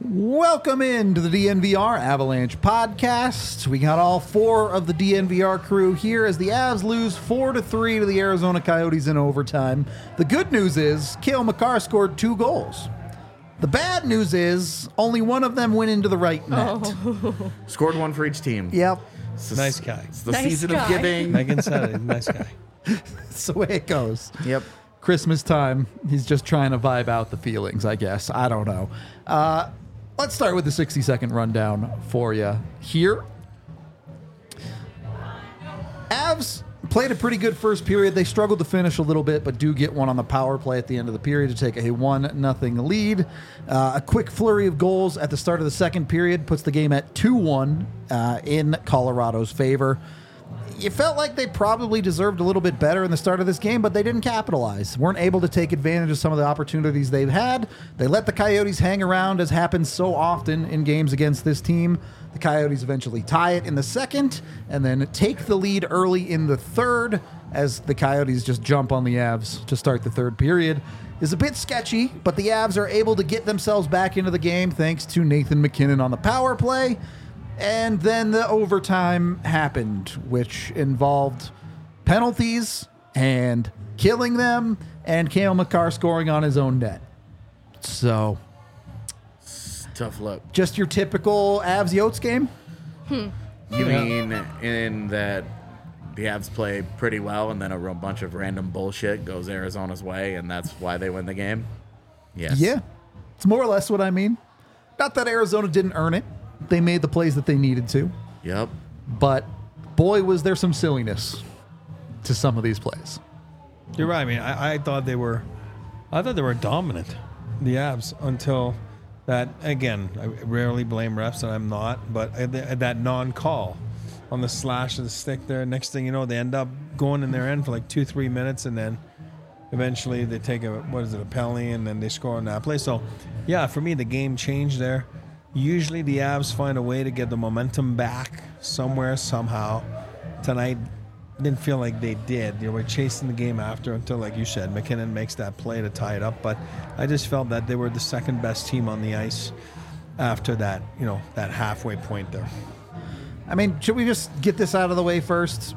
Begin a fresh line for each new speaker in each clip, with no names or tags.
Welcome into the DNVR Avalanche podcast. We got all four of the DNVR crew here as the Avs lose 4-3 to the Arizona Coyotes in overtime. The good news is Cale Makar scored 2 goals. The bad news is only one of them went into the right net.
Oh. Scored one for each team.
Yep.
Nice guy.
It's the
Nice
season
guy.
of giving.
Megan said it. Nice guy.
That's the way it goes.
Yep.
Christmas time. He's just trying to vibe out the feelings, I guess. I don't know. Let's start with the 60-second rundown for you here. Avs played a pretty good first period. They struggled to finish a little bit, but do get one on the power play at the end of the period to take a 1-0 lead. A quick flurry of goals at the start of the second period puts the game at 2-1 in Colorado's favor. You felt like they probably deserved a little bit better in the start of this game, but they didn't capitalize. Weren't able to take advantage of some of the opportunities they've had. They let the Coyotes hang around, as happens so often in games against this team. The Coyotes eventually tie it in the second, and then take the lead early in the third, as the Coyotes just jump on the Avs to start the third period. Is a bit sketchy, but the Avs are able to get themselves back into the game thanks to Nathan MacKinnon on the power play. And then the overtime happened, which involved penalties and killing them and Cale Makar scoring on his own net. So,
Tough luck.
just your typical Avs Yotes game?
You mean in that the Avs play pretty well and then a bunch of random bullshit goes Arizona's way and that's why they win the game? Yes.
Yeah, it's more or less what I mean. Not that Arizona didn't earn it. They made the plays that they needed to.
Yep.
But, boy, was there some silliness to some of these plays.
You're right. I mean, I thought they were dominant, the Avs, until that. Again, I rarely blame refs, and I'm not. But that non-call on the slash of the stick there. Next thing you know, they end up going in their end for like 2-3 minutes, and then eventually they take a penalty, and then they score on that play. So, yeah, for me, the game changed there. Usually the Avs find a way to get the momentum back somewhere, somehow. Tonight, didn't feel like they did. They were chasing the game after until, like you said, MacKinnon makes that play to tie it up. But I just felt that they were the second best team on the ice after that, that halfway point there.
I mean, should we just get this out of the way first?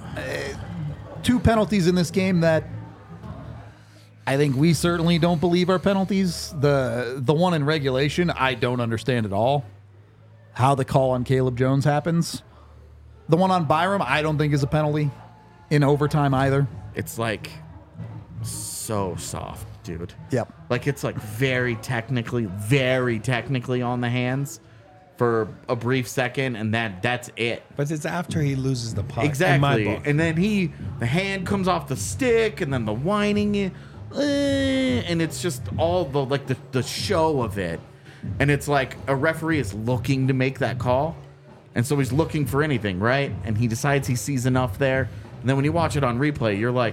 2 penalties in this game that I think we certainly don't believe are penalties. The one in regulation, I don't understand at all how the call on Caleb Jones happens. The one on Byram, I don't think is a penalty in overtime either.
It's like so soft, dude.
Yep.
Like it's like very technically on the hands for a brief second and that's it.
But it's after he loses the puck.
Exactly.
In my book.
And then the hand comes off the stick and then the whining and it's just all the show of it. And it's like a referee is looking to make that call. And so he's looking for anything, right? And he decides he sees enough there. And then when you watch it on replay, you're like,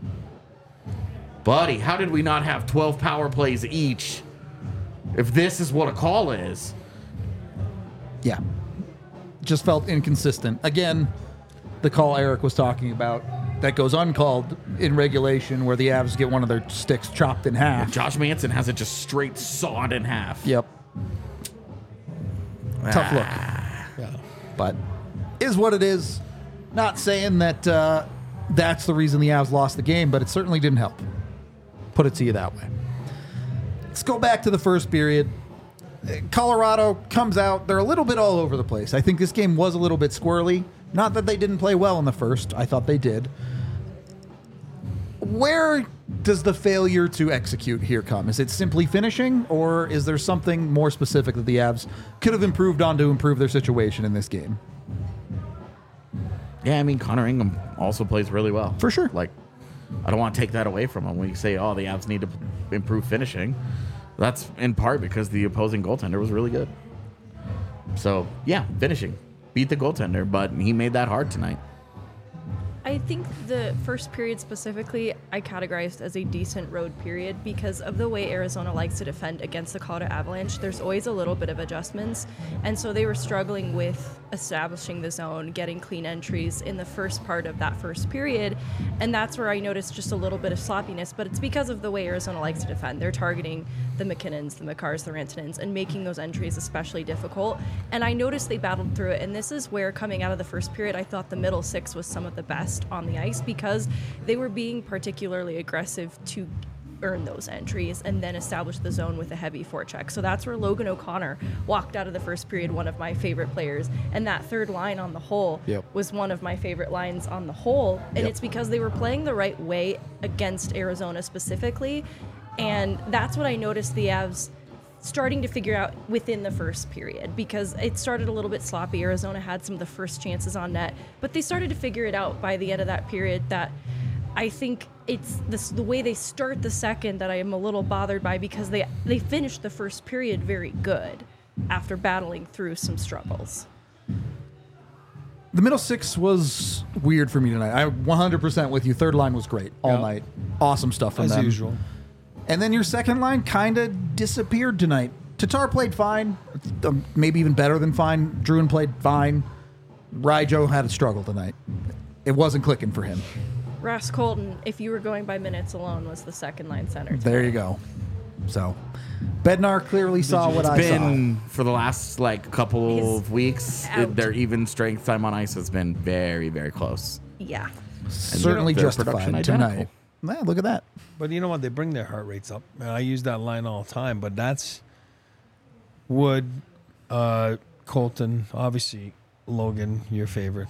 buddy, how did we not have 12 power plays each if this is what a call is?
Yeah. Just felt inconsistent. Again, the call Eric was talking about that goes uncalled in regulation where the Avs get one of their sticks chopped in half.
Josh Manson has it just straight sawed in half.
Yep. Tough look.
Yeah.
But is what it is. Not saying that that's the reason the Avs lost the game, but it certainly didn't help. Put it to you that way. Let's go back to the first period. Colorado comes out. They're a little bit all over the place. I think this game was a little bit squirrely. Not that they didn't play well in the first. I thought they did. Where does the failure to execute here come? Is it simply finishing, or is there something more specific that the Avs could have improved on to improve their situation in this game?
Yeah, I mean, Connor Ingram also plays really well.
For sure.
Like, I don't want to take that away from him when you say, the Avs need to improve finishing. That's in part because the opposing goaltender was really good. So, yeah, finishing. Beat the goaltender, but he made that hard tonight.
I think the first period specifically, I categorized as a decent road period because of the way Arizona likes to defend against the Colorado Avalanche. There's always a little bit of adjustments, and so they were struggling with establishing the zone, getting clean entries in the first part of that first period, and that's where I noticed just a little bit of sloppiness, but it's because of the way Arizona likes to defend. They're targeting the McKinnons, the Makars, the Rantanens, and making those entries especially difficult. And I noticed they battled through it. And this is where, coming out of the first period, I thought the middle six was some of the best on the ice because they were being particularly aggressive to earn those entries and then establish the zone with a heavy forecheck. So that's where Logan O'Connor walked out of the first period, one of my favorite players. And that third line on the whole was one of my favorite lines on the whole. And it's because they were playing the right way against Arizona specifically. And that's what I noticed the Avs starting to figure out within the first period, because it started a little bit sloppy. Arizona had some of the first chances on net, but they started to figure it out by the end of that period. That I think it's the way they start the second that I am a little bothered by, because they finished the first period very good after battling through some struggles.
The middle six was weird for me tonight. I 100% with you. Third line was great all night. Awesome stuff from them.
As usual.
And then your second line kind of disappeared tonight. Tatar played fine, maybe even better than fine. Druin played fine. Ryjo had a struggle tonight. It wasn't clicking for him.
Ross Colton, if you were going by minutes alone, was the second line center tonight.
There you go. So, Bednar clearly saw what I saw.
It's been, for the last couple of weeks,
out.
their even strength time on ice has been very, very close.
Yeah.
Certainly
their
justified
production
tonight.
identical.
Yeah, look at that.
But you know what? They bring their heart rates up. And I use that line all the time, but that's Wood, Colton, obviously Logan, your favorite.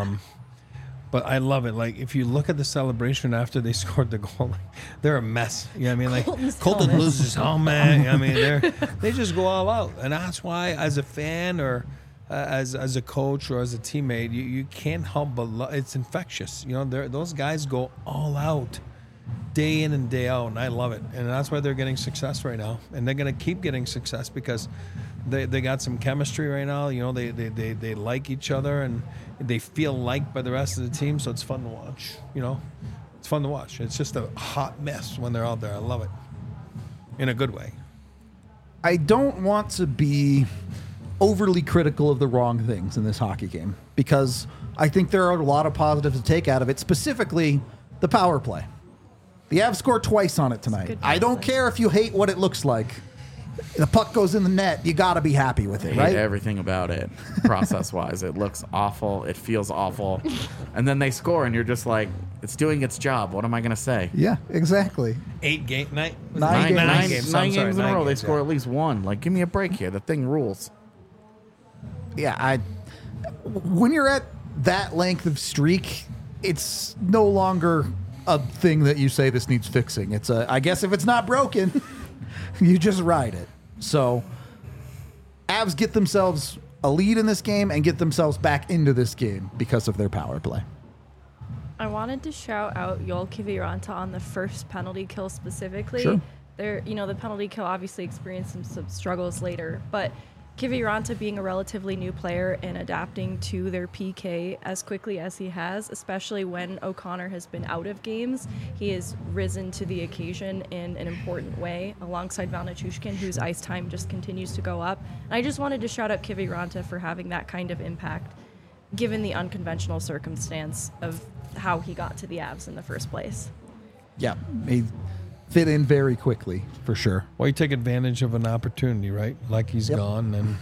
But I love it. Like, if you look at the celebration after they scored the goal, they're a mess. You know what I mean? Like, Colton
helmet.
loses his helmet. You know what I mean? They just go all out. And that's why, as a fan or as a coach or as a teammate, you can't help but it's infectious. You know, those guys go all out day in and day out, and I love it. And that's why they're getting success right now. And they're going to keep getting success because they got some chemistry right now. You know, they like each other, and they feel liked by the rest of the team, so it's fun to watch. You know, it's fun to watch. It's just a hot mess when they're out there. I love it in a good way.
I don't want to be overly critical of the wrong things in this hockey game, because I think there are a lot of positives to take out of it, specifically the power play. The Avs scored twice on it tonight.
Good
I don't
power play.
care if you hate what it looks like. The puck goes in the net. You got to be happy with it,
I
right?
hate everything about it, process-wise. It looks awful. It feels awful. And then they score, and you're just like, it's doing its job. What am I going to say?
Yeah, exactly.
8 game night.
Nine
Nine
games.
games in a row. They score at least one. Like, give me a break here. The thing rules.
Yeah, when you're at that length of streak, it's no longer a thing that you say this needs fixing. It's I guess if it's not broken, you just ride it. So, Avs get themselves a lead in this game and get themselves back into this game because of their power play.
I wanted to shout out Yoel Kiviranta on the first penalty kill specifically.
Sure.
The penalty kill obviously experienced some struggles later, but Kiviranta being a relatively new player and adapting to their PK as quickly as he has, especially when O'Connor has been out of games, he has risen to the occasion in an important way alongside Val Nichushkin, whose ice time just continues to go up. And I just wanted to shout out Kiviranta for having that kind of impact, given the unconventional circumstance of how he got to the Avs in the first place.
Yeah, he fit in very quickly, for sure.
Well, you take advantage of an opportunity, right? Like he's gone and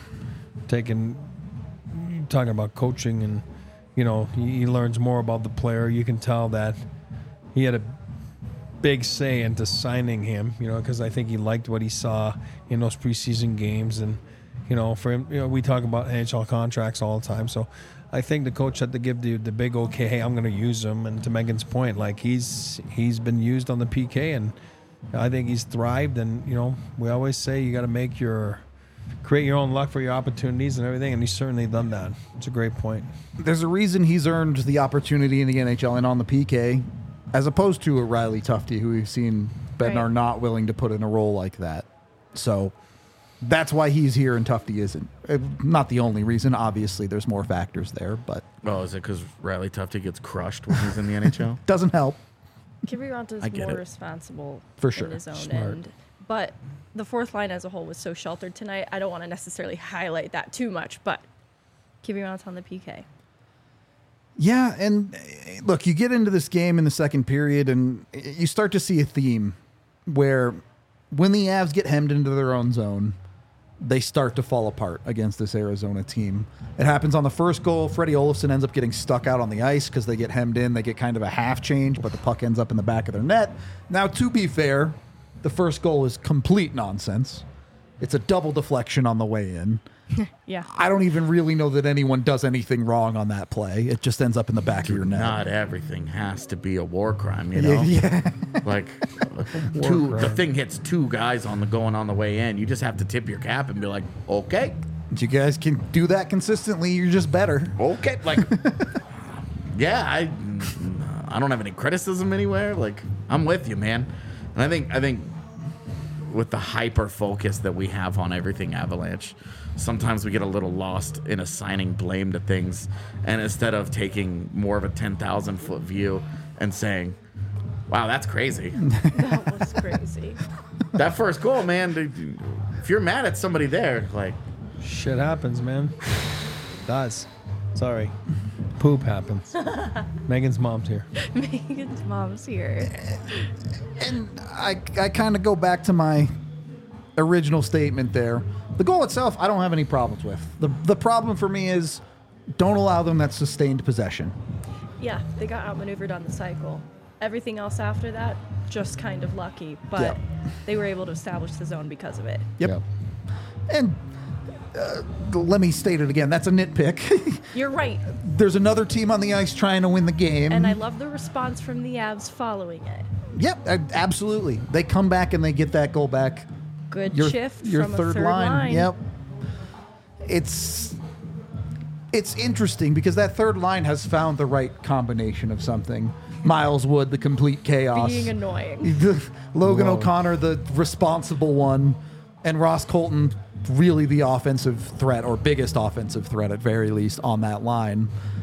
talking about coaching, and you know, he learns more about the player. You can tell that he had a big say into signing him, you know, because I think he liked what he saw in those preseason games. And you know, for him, you know, we talk about NHL contracts all the time, so I think the coach had to give the big okay, hey, I'm going to use him. And to Megan's point, like he's been used on the PK, and I think he's thrived. And you know, we always say you got to create your own luck for your opportunities and everything, and he's certainly done that. It's a great point.
There's a reason he's earned the opportunity in the NHL and on the PK, as opposed to a Riley Tufte, who we've seen Bednar
Right.
not willing to put in a role like that. So that's why he's here and Tufte isn't. Not the only reason. Obviously, there's more factors there, but
Oh, is it because Riley Tufte gets crushed when he's in the NHL?
doesn't help.
Kiviranta
I
is
get
more
it.
responsible
For sure.
in his own
Smart.
end. But the fourth line as a whole was so sheltered tonight, I don't want to necessarily highlight that too much, but Kiviranta on the PK.
Yeah, and look, you get into this game in the second period, and you start to see a theme where when the Avs get hemmed into their own zone, they start to fall apart against this Arizona team. It happens on the first goal. Freddie Olofsson ends up getting stuck out on the ice because they get hemmed in. They get kind of a half change, but the puck ends up in the back of their net. Now, to be fair, the first goal is complete nonsense. It's a double deflection on the way in.
Yeah.
I don't even really know that anyone does anything wrong on that play. It just ends up in the back of your net.
Not everything has to be a war crime, you know?
Yeah.
Like, the thing hits two guys going on the way in. You just have to tip your cap and be like, okay,
If you guys can do that consistently, you're just better.
okay. Like, yeah, I don't have any criticism anywhere. Like, I'm with you, man. And I think with the hyper focus that we have on everything Avalanche, sometimes we get a little lost in assigning blame to things, and instead of taking more of a 10,000 foot view and saying, wow, that's crazy.
That was crazy.
That first goal, man, dude, if you're mad at somebody there, like,
Shit happens, man. Does. Sorry. Poop happens. Megan's mom's here.
Megan's mom's here.
And I kind of go back to my original statement there. The goal itself, I don't have any problems with. The problem for me is don't allow them that sustained possession.
Yeah, they got outmaneuvered on the cycle. Everything else after that, just kind of lucky, but
Yeah.
they were able to establish the zone because of it.
Yep.
Yeah.
And let me state it again. That's a nitpick.
You're right,
There's another team on the ice trying to win the game.
and I love the response from the Avs following it.
Yep, absolutely. They come back and they get that goal back.
Good
Your
shift
your
from
third
a third line.
Yep. It's interesting because that third line has found the right combination of something. Miles Wood, the complete chaos.
Being annoying.
Logan
Whoa.
O'Connor, the responsible one, and Ross Colton, really the offensive threat or biggest offensive threat at very least on that line.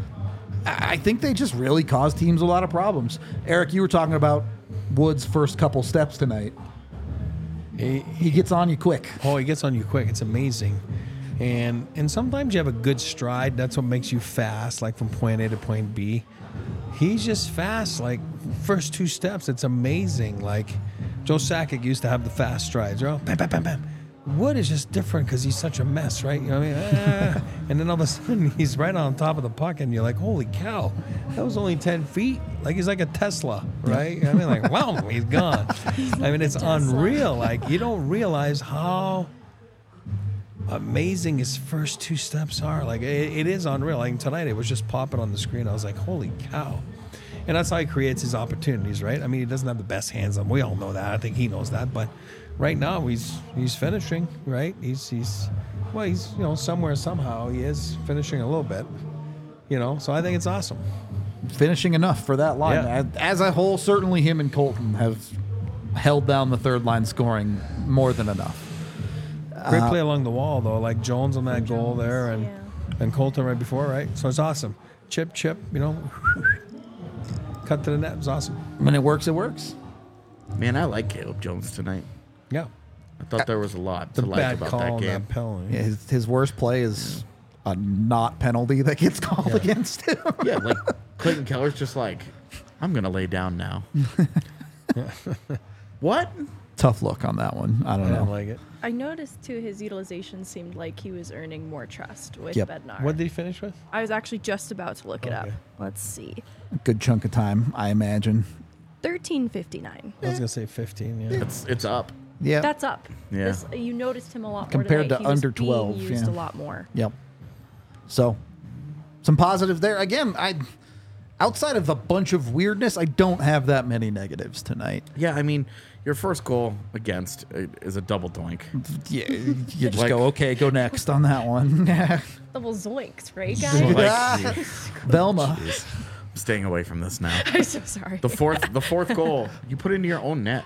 I think they just really caused teams a lot of problems. Eric, you were talking about Wood's first couple steps tonight. He gets on you quick.
Oh, he gets on you quick. It's amazing. And sometimes you have a good stride. That's what makes you fast, like from point A to point B. He's just fast, like first two steps. It's amazing. Like Joe Sakic used to have the fast strides. You know? Bam, bam, bam, bam. Wood is just different because he's such a mess, right? You know what I mean? And then all of a sudden he's right on top of the puck, and you're like, holy cow, that was only 10 feet. Like he's like a Tesla, right? You know what I mean? Like, wow, he's gone. I mean, it's
Tesla.
unreal. Like you don't realize how amazing his first two steps are. Like it is unreal. Like tonight, it was just popping on the screen. I was like, holy cow. And that's how he creates his opportunities, right? I mean, he doesn't have the best hands on. We all know that. I think he knows that. But right now, he's finishing, right? He's somewhere somehow he is finishing a little bit, So I think it's awesome.
Finishing enough for that line.
Yeah.
As a whole, certainly him and Colton have held down the third line scoring more than enough.
Great play along the wall though, like Jones on that goal there, and
yeah.
and Colton right before, right? So it's awesome. Chip, cut to the net. It was awesome.
When it works, it works.
man, I like Caleb Jones tonight.
Yeah.
I thought there was a lot
The
to like
bad
about
call
that
on
game.
that penalty.
Yeah, his worst play is a not penalty that gets called against him.
Yeah, like Clayton Keller's just like, I'm gonna lay down now. What?
Tough look on that one. I
I
don't
didn't
know.
like it.
I noticed too his utilization seemed like he was earning more trust with
Yep.
Bednar.
What did he finish with?
I was actually just about to look it up.
Okay.
Let's see.
Good chunk of time, I imagine.
1359.
I was gonna say 15. Yeah.
It's up.
Yeah.
That's up.
Yeah.
You noticed him a lot more
Compared
tonight.
to
He was
under
being
12,
used
yeah.
a lot more.
Yep. So, some positive there. Again, outside of a bunch of weirdness, I don't have that many negatives tonight.
Yeah, I mean, your first goal against is a double doink.
Yeah, you just
Like-
go, okay, go next on that one.
Double zoinks, right,
So,
guys?
like,
Velma.
I'm staying away from this now.
I'm so sorry.
The fourth goal, you put into your own net.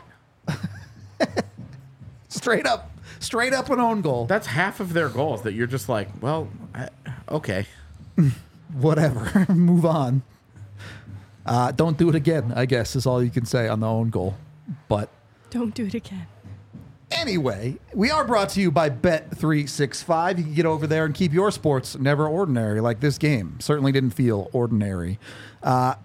Straight up an own goal.
That's half of their goals that you're just like, well, okay.
Whatever. Move on. Don't do it again, I guess, is all you can say on the own goal. But
Don't do it again.
anyway, we are brought to you by Bet365. You can get over there and keep your sports never ordinary, like this game. Certainly didn't feel ordinary.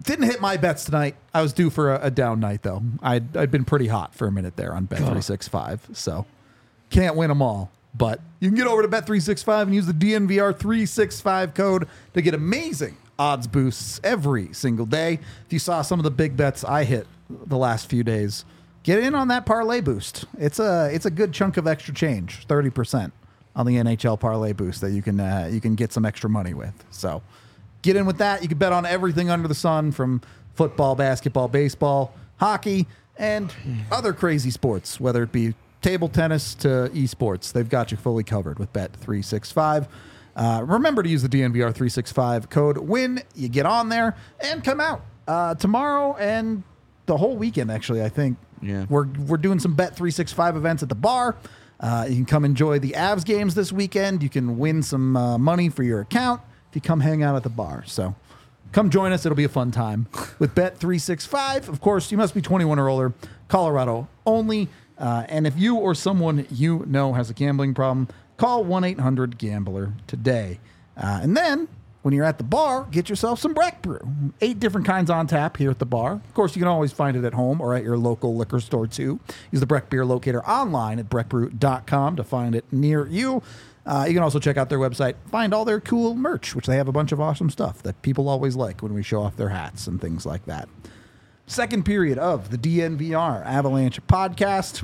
Didn't hit my bets tonight. I was due for a down night, though. I'd been pretty hot for a minute there on Bet365, so can't win them all. But you can get over to Bet365 and use the DNVR365 code to get amazing odds boosts every single day. If you saw some of the big bets I hit the last few days, get in on that parlay boost. It's a good chunk of extra change, 30% on the NHL parlay boost that you can get some extra money with. So get in with that. You can bet on everything under the sun, from football, basketball, baseball, hockey, and other crazy sports, whether it be table tennis to esports. They've got you fully covered with Bet365. Remember to use the DNVR365 code when you get on there, and come out tomorrow and the whole weekend, actually, I think.
Yeah.
We're doing some Bet365 events at the bar. You can come enjoy the Avs games this weekend. You can win some money for your account if you come hang out at the bar. So come join us. It'll be a fun time with Bet365. Of course, you must be 21 or older, Colorado only. And if you or someone you know has a gambling problem, call 1-800-GAMBLER today. And then, when you're at the bar, get yourself some Breck Brew. 8 different kinds on tap here at the bar. Of course, you can always find it at home or at your local liquor store, too. Use the Breck Beer Locator online at breckbrew.com to find it near you. You can also check out their website, find all their cool merch, which they have a bunch of awesome stuff that people always like when we show off their hats and things like that. Second period of the DNVR Avalanche podcast.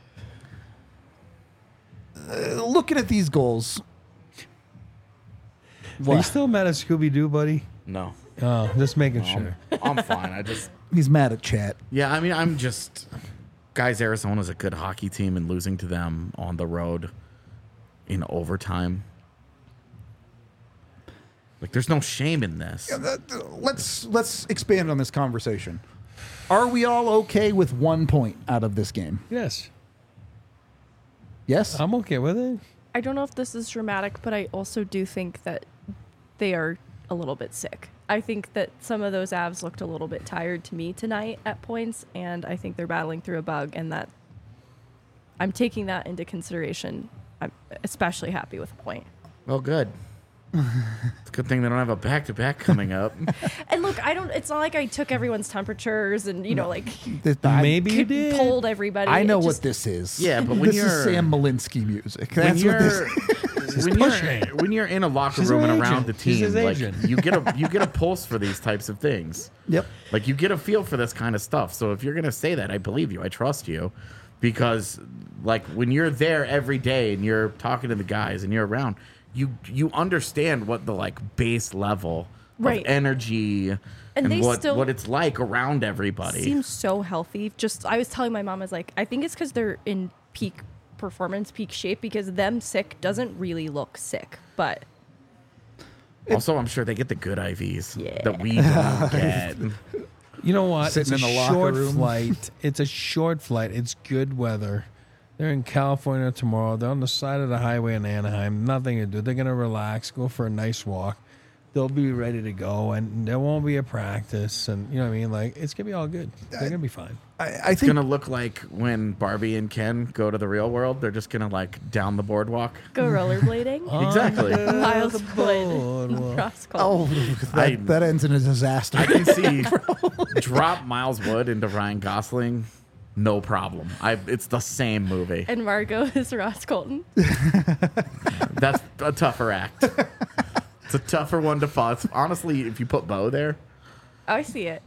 Looking at these goals.
Are you still mad at Scooby-Doo, buddy?
No.
Oh, just making sure.
I'm fine.
He's mad at chat.
Yeah, I mean, guys, Arizona's a good hockey team, and losing to them on the road in overtime. Like, there's no shame in this.
Let's expand on this conversation. Are we all okay with 1 point out of this game?
Yes.
Yes?
I'm okay with it.
I don't know if this is dramatic, but I also do think that they are a little bit sick. I think that some of those Avs looked a little bit tired to me tonight at points, and I think they're battling through a bug, and that I'm taking that into consideration. I'm especially happy with a point.
Well, good. It's a good thing they don't have a back-to-back coming up.
And look, it's not like I took everyone's temperatures and,
Maybe you did.
polled everybody.
I know
It
what
just-
this is.
Yeah, but when
this
you're-
is Sam Malinsky music.
When
That's what this
you're when you're in a locker
She's
room
her
and around
agent.
the
She's
team,
his
like
agent.
you get a pulse for these types of things.
Yep.
Like, you get a feel for this kind of stuff. So if you're gonna say that, I believe you. I trust you, because like when you're there every day and you're talking to the guys and you're around, you understand what the like base level
Right.
of energy
And they
what
still-
what it's like around everybody.
Seems so healthy. Just I was telling my mom, I was like, I think it's because they're in peak performance, peak shape, because them sick doesn't really look sick. But
Also, I'm sure they get the good IVs
Yeah.
that we don't get.
You know what?
Sitting
it's
in
a
the locker
short
room.
flight. It's a short flight. It's good weather. They're in California tomorrow. They're on the side of the highway in Anaheim. Nothing to do. They're going to relax, go for a nice walk. They'll be ready to go, and there won't be a practice. And you know what I mean? Like, it's going to be all good. They're going to be fine.
I
It's
think
gonna look like when Barbie and Ken go to the real world. They're just gonna like down the boardwalk.
go rollerblading.
Exactly.
Miles
boardwalk.
Wood. Cross Colton.
that ends in a disaster.
I can see drop Miles Wood into Ryan Gosling, no problem. It's the same movie.
And Margot is Ross Colton.
That's a tougher act. It's a tougher one to follow. Honestly, if you put Bo there,
I see it.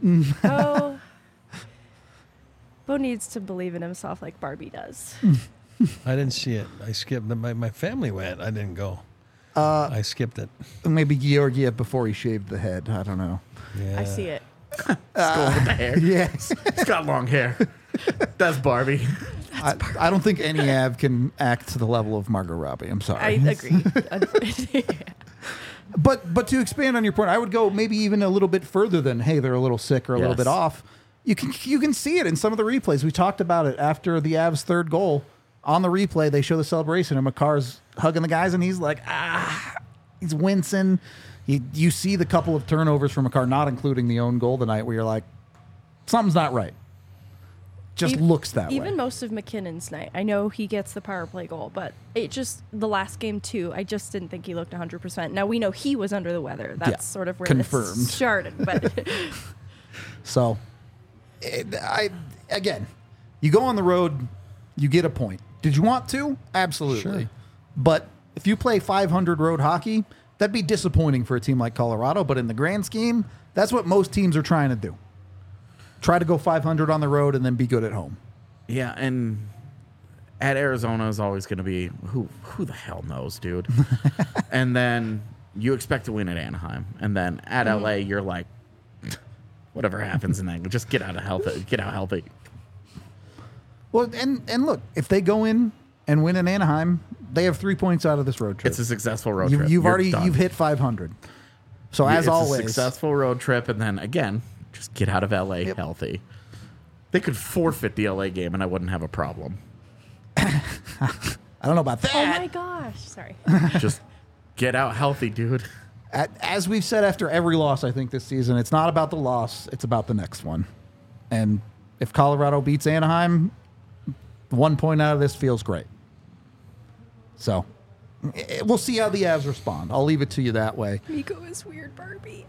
Bo needs to believe in himself like Barbie does.
I didn't see it. I skipped. My family went. I didn't go. I skipped it.
Maybe Georgiev before he shaved the head. I don't know.
Yeah.
I see it.
Skull with the hair.
Yes.
He's got long hair. That's Barbie.
I don't think any Av can act to the level of Margot Robbie. I'm sorry.
I agree.
But to expand on your point, I would go maybe even a little bit further than, hey, they're a little sick or a little
Yes.
bit off. You can see it in some of the replays. We talked about it after the Avs' third goal. On the replay, they show the celebration, and Makar's hugging the guys, and he's like, he's wincing. You see the couple of turnovers from Makar, not including the own goal tonight, where you're like, something's not right. Just looks that way.
Even most of McKinnon's night. I know he gets the power play goal, but it just, the last game too, I just didn't think he looked 100%. Now we know he was under the weather. That's
Yeah,
sort of where
confirmed.
this started. But
So, again, you go on the road, you get a point. Did you want to? Absolutely.
Sure.
But if you play 500 road hockey, that'd be disappointing for a team like Colorado. But in the grand scheme, that's what most teams are trying to do. Try to go 500 on the road and then be good at home.
Yeah, and at Arizona is always going to be who the hell knows, dude. And then you expect to win at Anaheim, and then at LA you're like, whatever happens, and then just get out healthy.
Well, and look, if they go in and win in Anaheim, they have 3 points out of this road trip.
It's a successful road trip.
You've hit 500. So as
it's
always,
a successful road trip, and then again, just get out of LA healthy. They could forfeit the LA game, and I wouldn't have a problem.
I don't know about that.
Oh my gosh. Sorry.
Just get out healthy, dude.
As we've said after every loss, I think this season, it's not about the loss, it's about the next one. And if Colorado beats Anaheim, 1 point out of this feels great. So we'll see how the Avs respond. I'll leave it to you that way.
Miko is weird, Barbie.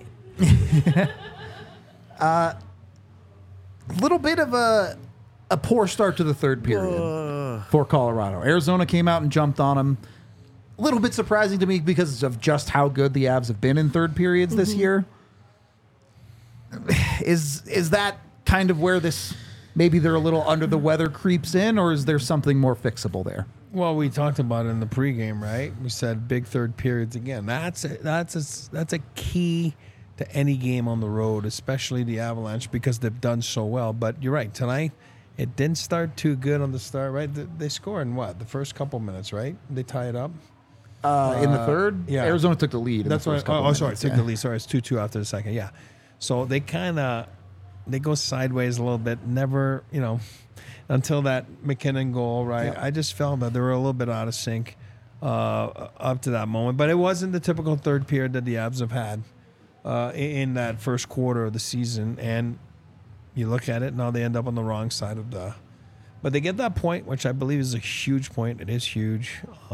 A little bit of a poor start to the third period for Colorado. Arizona came out and jumped on them. A little bit surprising to me because of just how good the Avs have been in third periods this year. Is that kind of where this, maybe they're a little under the weather creeps in, or is there something more fixable there?
Well, we talked about it in the pregame, right? We said big third periods again. That's a key to any game on the road, especially the Avalanche, because they've done so well. But you're right. Tonight, it didn't start too good on the start, right? They score in what? The first couple minutes, right? They tie it up.
In the third,
yeah.
Arizona took the lead.
That's
in the
what.
first couple
Oh, sorry,
minutes,
took the lead. Sorry, it's 2-2 after the second. Yeah, so they they go sideways a little bit. Never, until that McKinnon goal, right?
Yeah.
I just felt that they were a little bit out of sync up to that moment, but it wasn't the typical third period that the Avs have had in that first quarter of the season. And you look at it now, they end up on the wrong side of the. But they get that point, which I believe is a huge point. It is huge.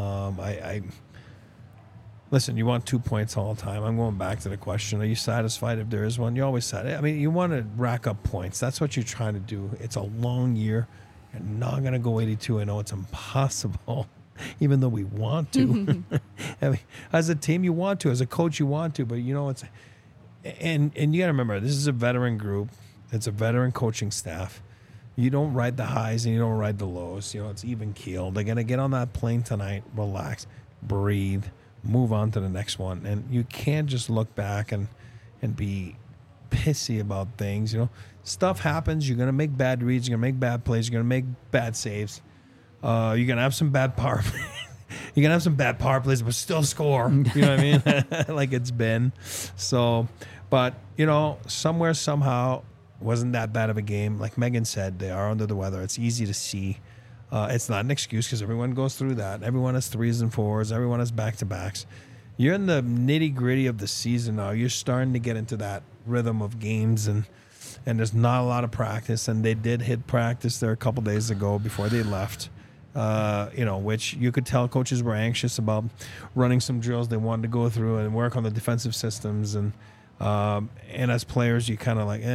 Listen, you want 2 points all the time. I'm going back to the question. Are you satisfied if there is one? You're always satisfied. I mean, you want to rack up points. That's what you're trying to do. It's a long year. You're not going to go 82-0. It's impossible, even though we want to. I mean, as a team, you want to. As a coach, you want to. But, it's... And you got to remember, this is a veteran group. It's a veteran coaching staff. You don't ride the highs and you don't ride the lows. It's even keel. They're going to get on that plane tonight, relax, breathe, move on to the next one. And you can't just look back and be pissy about things. Stuff happens. You're going to make bad reads. You're going to make bad plays. You're going to make bad saves. You're going to have some bad power plays. You're going to have some bad power plays, but still score. You know what I mean? Like it's been. So, but, somewhere, somehow, wasn't that bad of a game. Like Megan said, they are under the weather. It's easy to see. It's not an excuse because everyone goes through that. Everyone has 3s and 4s. Everyone has back-to-backs. You're in the nitty-gritty of the season now. You're starting to get into that rhythm of games, and there's not a lot of practice. And they did hit practice there a couple days ago before they left, which you could tell coaches were anxious about running some drills they wanted to go through and work on the defensive systems. And as players, you kind of like,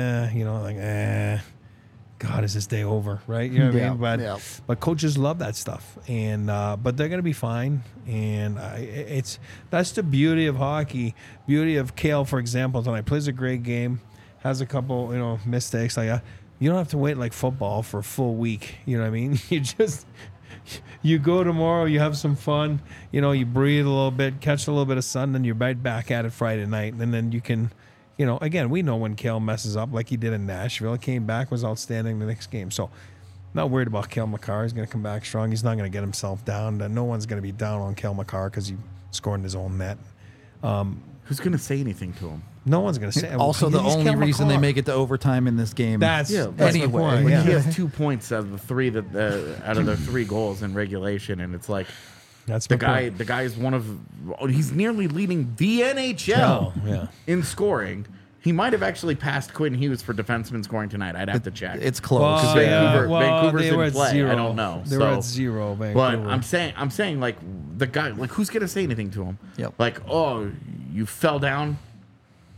God, is this day over, right? You know what I mean? But coaches love that stuff, and but they're gonna be fine. And that's the beauty of hockey. Beauty of Kale, for example, tonight plays a great game, has a couple mistakes. Like you don't have to wait like football for a full week. You know what I mean? You go tomorrow, you have some fun. You breathe a little bit, catch a little bit of sun, then you're right back at it Friday night, and then you can. Again, we know when Kale messes up like he did in Nashville. Came back, was outstanding the next game. So, not worried about Kale McCarr. He's going to come back strong. He's not going to get himself down. No one's going to be down on Kale McCarr because he scored in his own net.
Who's going to say anything to him?
No one's going to say.
Also, the only reason they make it to overtime in this game.
That's
anyway.
the point.
Like
Yeah.
he has 2 points out of the three out of their 3 goals in regulation, and it's like
That's
the
my
guy.
point.
The guy is he's nearly leading the NHL
Yeah.
in scoring. He might have actually passed Quinn Hughes for defenseman scoring tonight. I'd have to check.
It's close.
Well,
Vancouver's
they were
in
at
play.
0.
I don't know.
They were at 0. Vancouver.
But I'm saying like the guy, like who's gonna say anything to him?
Yep.
Like, oh, you fell down.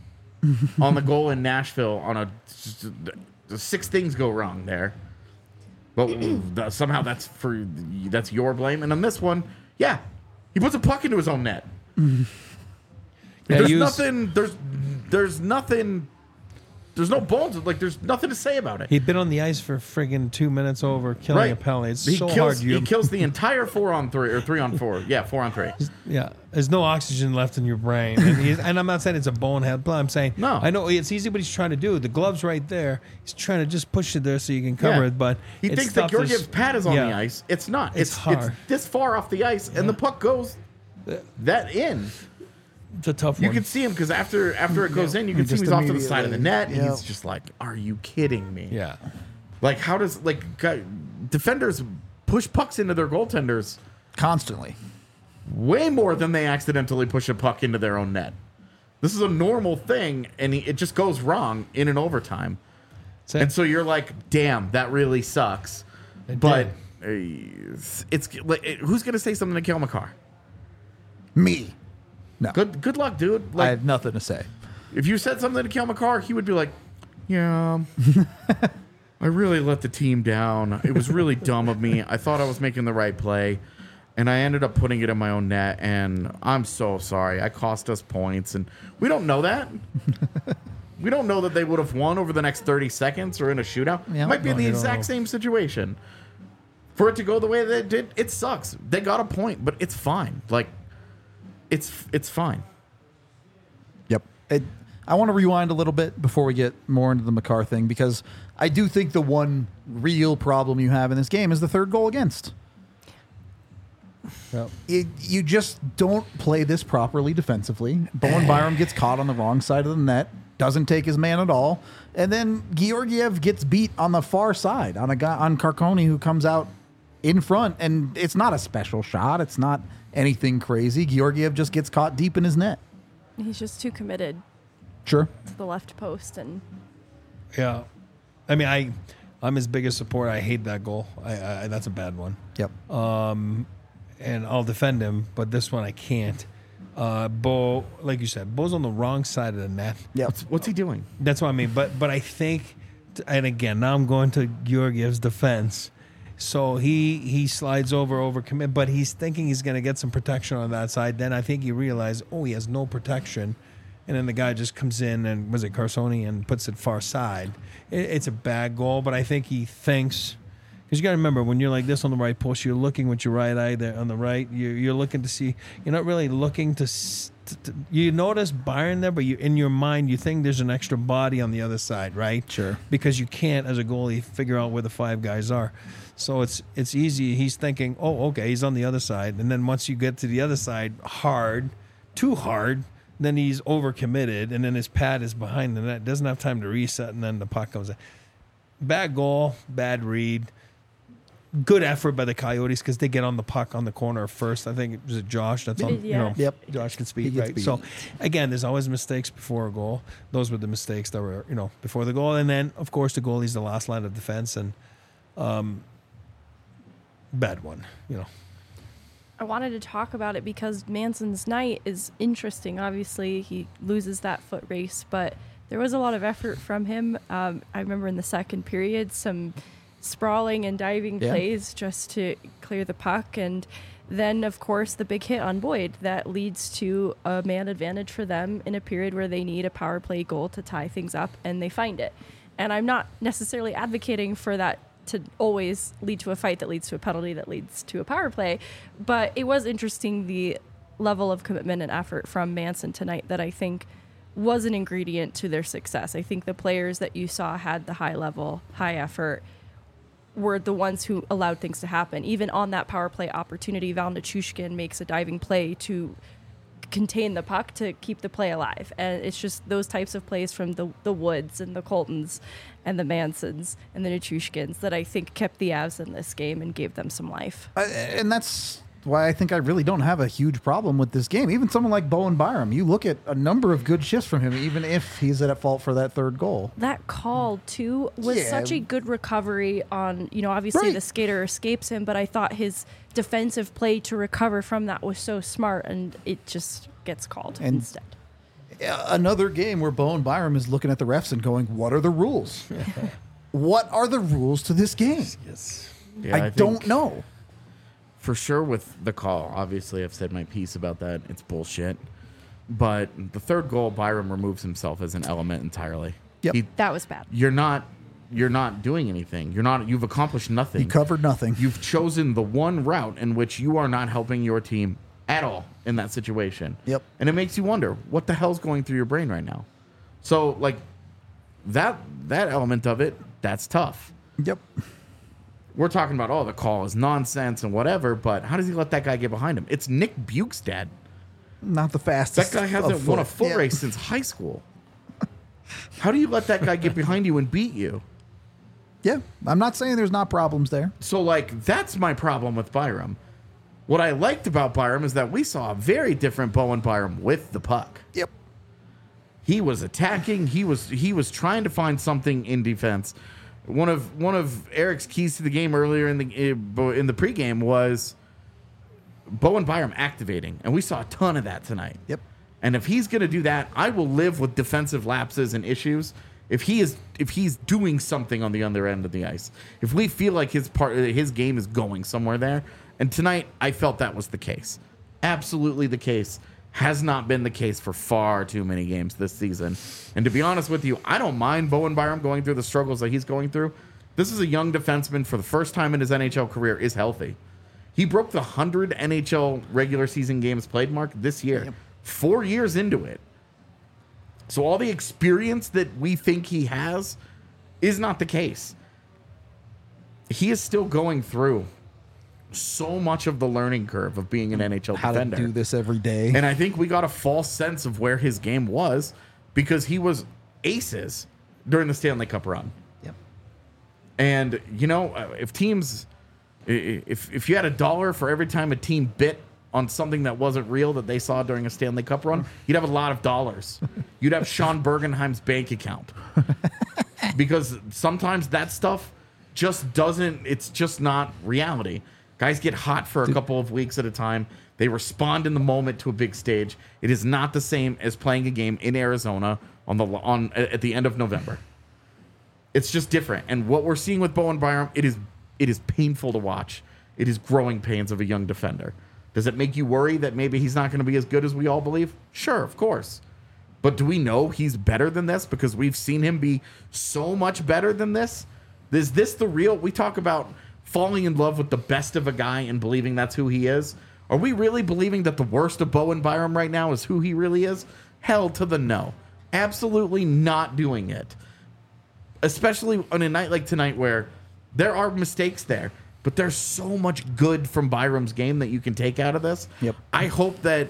on the goal in Nashville on the 6 things go wrong there. But somehow that's your blame. And on this one, yeah, he puts a puck into his own net.
Yeah,
There's nothing. There's no bones. Like, there's nothing to say about it.
He'd been on the ice for friggin' 2 minutes over, killing a penalty. It's so hard.
He kills the entire 4-on-3 or 3-on-4. Yeah, 4-on-3.
Yeah, there's no oxygen left in your brain, and I'm not saying it's a bonehead play. I'm saying
No.
I know it's easy what he's trying to do. The glove's right there. He's trying to just push it there so you can cover
Yeah.
it, but
He
it's
thinks that
tough to
Georgiev's pad is on the ice. It's not.
It's hard.
It's this far off the ice, and the puck goes that in.
It's a tough
You
one.
can see him because after it goes in, you can see him
Just
he's off to the side of the net.
immediately,
And he's just like, "Are you kidding me?"
Yeah.
Like, how does defenders push pucks into their goaltenders
Constantly.
way more than they accidentally push a puck into their own net? This is a normal thing, and it just goes wrong in an overtime. And so you're like, "Damn, that really sucks." But it's like, who's gonna say something to Cale Makar?
Me. No.
Good luck, dude.
I
Like,
have nothing to say.
if you said something to Cale Makar, he would be like, "Yeah, I really let the team down. It was really dumb of me. I thought I was making the right play, and I ended up putting it in my own net, and I'm so sorry. I cost us points." And we don't know that. We don't know that they would have won over the next 30 seconds or in a shootout.
Yeah.
Might be
No,
the
you don't
exact
know.
same situation. For it to go the way that it did, it sucks. They got a point, but it's fine. Like, it's fine.
Yep. I want to rewind a little bit before we get more into the Makar thing, because I do think the one real problem you have in this game is the third goal against.
Yep.
You just don't play this properly defensively. Bowen Byram gets caught on the wrong side of the net, doesn't take his man at all, and then Georgiev gets beat on the far side on a guy on Carconi who comes out in front, and it's not a special shot. It's not anything crazy. Georgiev just gets caught deep in his net.
He's just too committed
Sure.
to the left post, and
Yeah. I mean, I'm his biggest supporter. I hate that goal. I that's a bad one.
Yep.
And I'll defend him, but this one I can't. Bo, like you said, Bo's on the wrong side of the net.
Yep.
What's he doing?
That's what I mean. But I think, and again, now I'm going to Georgiev's defense. So he slides over commit, but he's thinking he's going to get some protection on that side. Then I think he realized, he has no protection. And then the guy just comes in and, was it Carsoni, and puts it far side. It's a bad goal, but I think he thinks, because you got to remember, when you're like this on the right post, you're looking with your right eye there on the right. You're looking to see, you're not really looking to you notice Byron there, but in your mind, you think there's an extra body on the other side, right?
Sure.
Because you can't, as a goalie, figure out where the 5 guys are. So it's easy. He's thinking, okay, he's on the other side. And then once you get to the other side too hard, then he's overcommitted, and then his pad is behind the net. Doesn't have time to reset, and then the puck comes in. Bad goal, bad read. Good effort by the Coyotes because they get on the puck on the corner first. I think it was Josh. That's on.
Yeah.
Yep.
Josh can
He
speak,
gets
right?
beat.
So again, there's always mistakes before a goal. Those were the mistakes that were before the goal, and then of course the goalie's the last line of defense, and bad one.
I wanted to talk about it because Manson's night is interesting. Obviously, he loses that foot race, but there was a lot of effort from him. I remember in the second period, some sprawling and diving plays just to clear the puck. And then, of course, the big hit on Boyd that leads to a man advantage for them in a period where they need a power play goal to tie things up, and they find it. And I'm not necessarily advocating for that to always lead to a fight that leads to a penalty that leads to a power play. But it was interesting, the level of commitment and effort from Manson tonight that I think was an ingredient to their success. I think the players that you saw had the high level, high effort, were the ones who allowed things to happen. Even on that power play opportunity, Val Nichushkin makes a diving play to contain the puck to keep the play alive. And it's just those types of plays from the Woods and the Coltons and the Mansons and the Nichushkins that I think kept the Avs in this game and gave them some life.
And that's why I think I really don't have a huge problem with this game. Even someone like Bowen Byram, you look at a number of good shifts from him, even if he's at fault for that third goal.
That call, too, was such a good recovery on, obviously the skater escapes him, but I thought his defensive play to recover from that was so smart, and it just gets called instead.
Another game where Bowen Byram is looking at the refs and going, what are the rules? What are the rules to this game?
Yes.
Yeah,
I
think
don't know.
For sure with the call. Obviously, I've said my piece about that. It's bullshit. But the third goal, Byram removes himself as an element entirely.
Yep.
That was bad.
You're not doing anything. You've accomplished nothing.
He covered nothing.
You've chosen the one route in which you are not helping your team at all in that situation.
Yep.
And it makes you wonder what the hell's going through your brain right now. So like that element of it, that's tough.
Yep.
We're talking about, the call is nonsense and whatever, but how does he let that guy get behind him? It's Nick Bukestad.
Not the
That
fastest.
guy hasn't won a foot race since high school. How do you let that guy get behind you and beat you?
Yeah. I'm not saying there's not problems there.
So, like, that's my problem with Byram. What I liked about Byram is that we saw a very different Bowen Byram with the puck.
Yep.
He was attacking. He was trying to find something in defense. One of Eric's keys to the game earlier in the pregame was Bowen Byram activating, and we saw a ton of that tonight.
Yep.
And if he's going to do that, I will live with defensive lapses and issues. If he's doing something on the other end of the ice, if we feel like his game is going somewhere there, and tonight I felt that was the case, absolutely the case. Has not been the case for far too many games this season. And to be honest with you, I don't mind Bowen Byram going through the struggles that he's going through. This is a young defenseman for the first time in his NHL career is healthy. He broke the 100 NHL regular season games played mark this year, 4 years into it. So all the experience that we think he has is not the case. He is still going through so much of the learning curve of being an NHL
How
defender.
to do this every day.
And I think we got a false sense of where his game was because he was aces during the Stanley Cup run.
Yep.
And, if you had $1 for every time a team bit on something that wasn't real that they saw during a Stanley Cup run, you'd have a lot of dollars. You'd have Sean Bergenheim's bank account. Because sometimes that stuff it's just not reality. Guys get hot for a couple of weeks at a time. They respond in the moment to a big stage. It is not the same as playing a game in Arizona at the end of November. It's just different. And what we're seeing with Bowen Byram, it is painful to watch. It is growing pains of a young defender. Does it make you worry that maybe he's not going to be as good as we all believe? Sure, of course. But do we know he's better than this because we've seen him be so much better than this? Is this the real? We talk about falling in love with the best of a guy and believing that's who he is. Are we really believing that the worst of Bowen Byram right now is who he really is? Hell to the no. Absolutely not doing it. Especially on a night like tonight where there are mistakes there, but there's so much good from Byram's game that you can take out of this.
Yep.
I hope that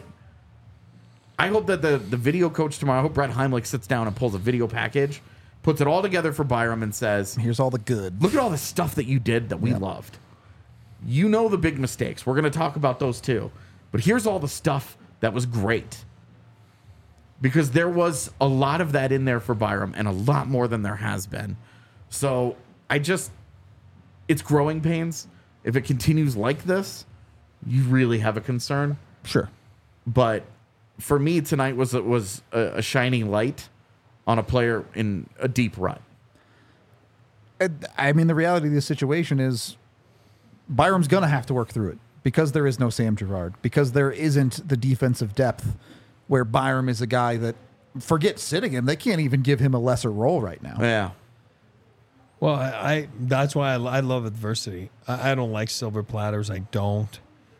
the video coach tomorrow, I hope Brett Heimlich sits down and pulls a video package, puts it all together for Byram and says,
Here's all the good.
look at all the stuff that you did that we loved. You know the big mistakes. We're going to talk about those too. But here's all the stuff that was great. Because there was a lot of that in there for Byram and a lot more than there has been. So it's growing pains. If it continues like this, you really have a concern.
Sure.
But for me, tonight was a shining light on a player in a deep rut.
I mean, the reality of the situation is Byram's going to have to work through it because there is no Sam Girard, because there isn't the defensive depth where Byram is a guy that, forget sitting him, they can't even give him a lesser role right now.
Yeah.
Well, that's why I love adversity. I don't like silver platters. I don't.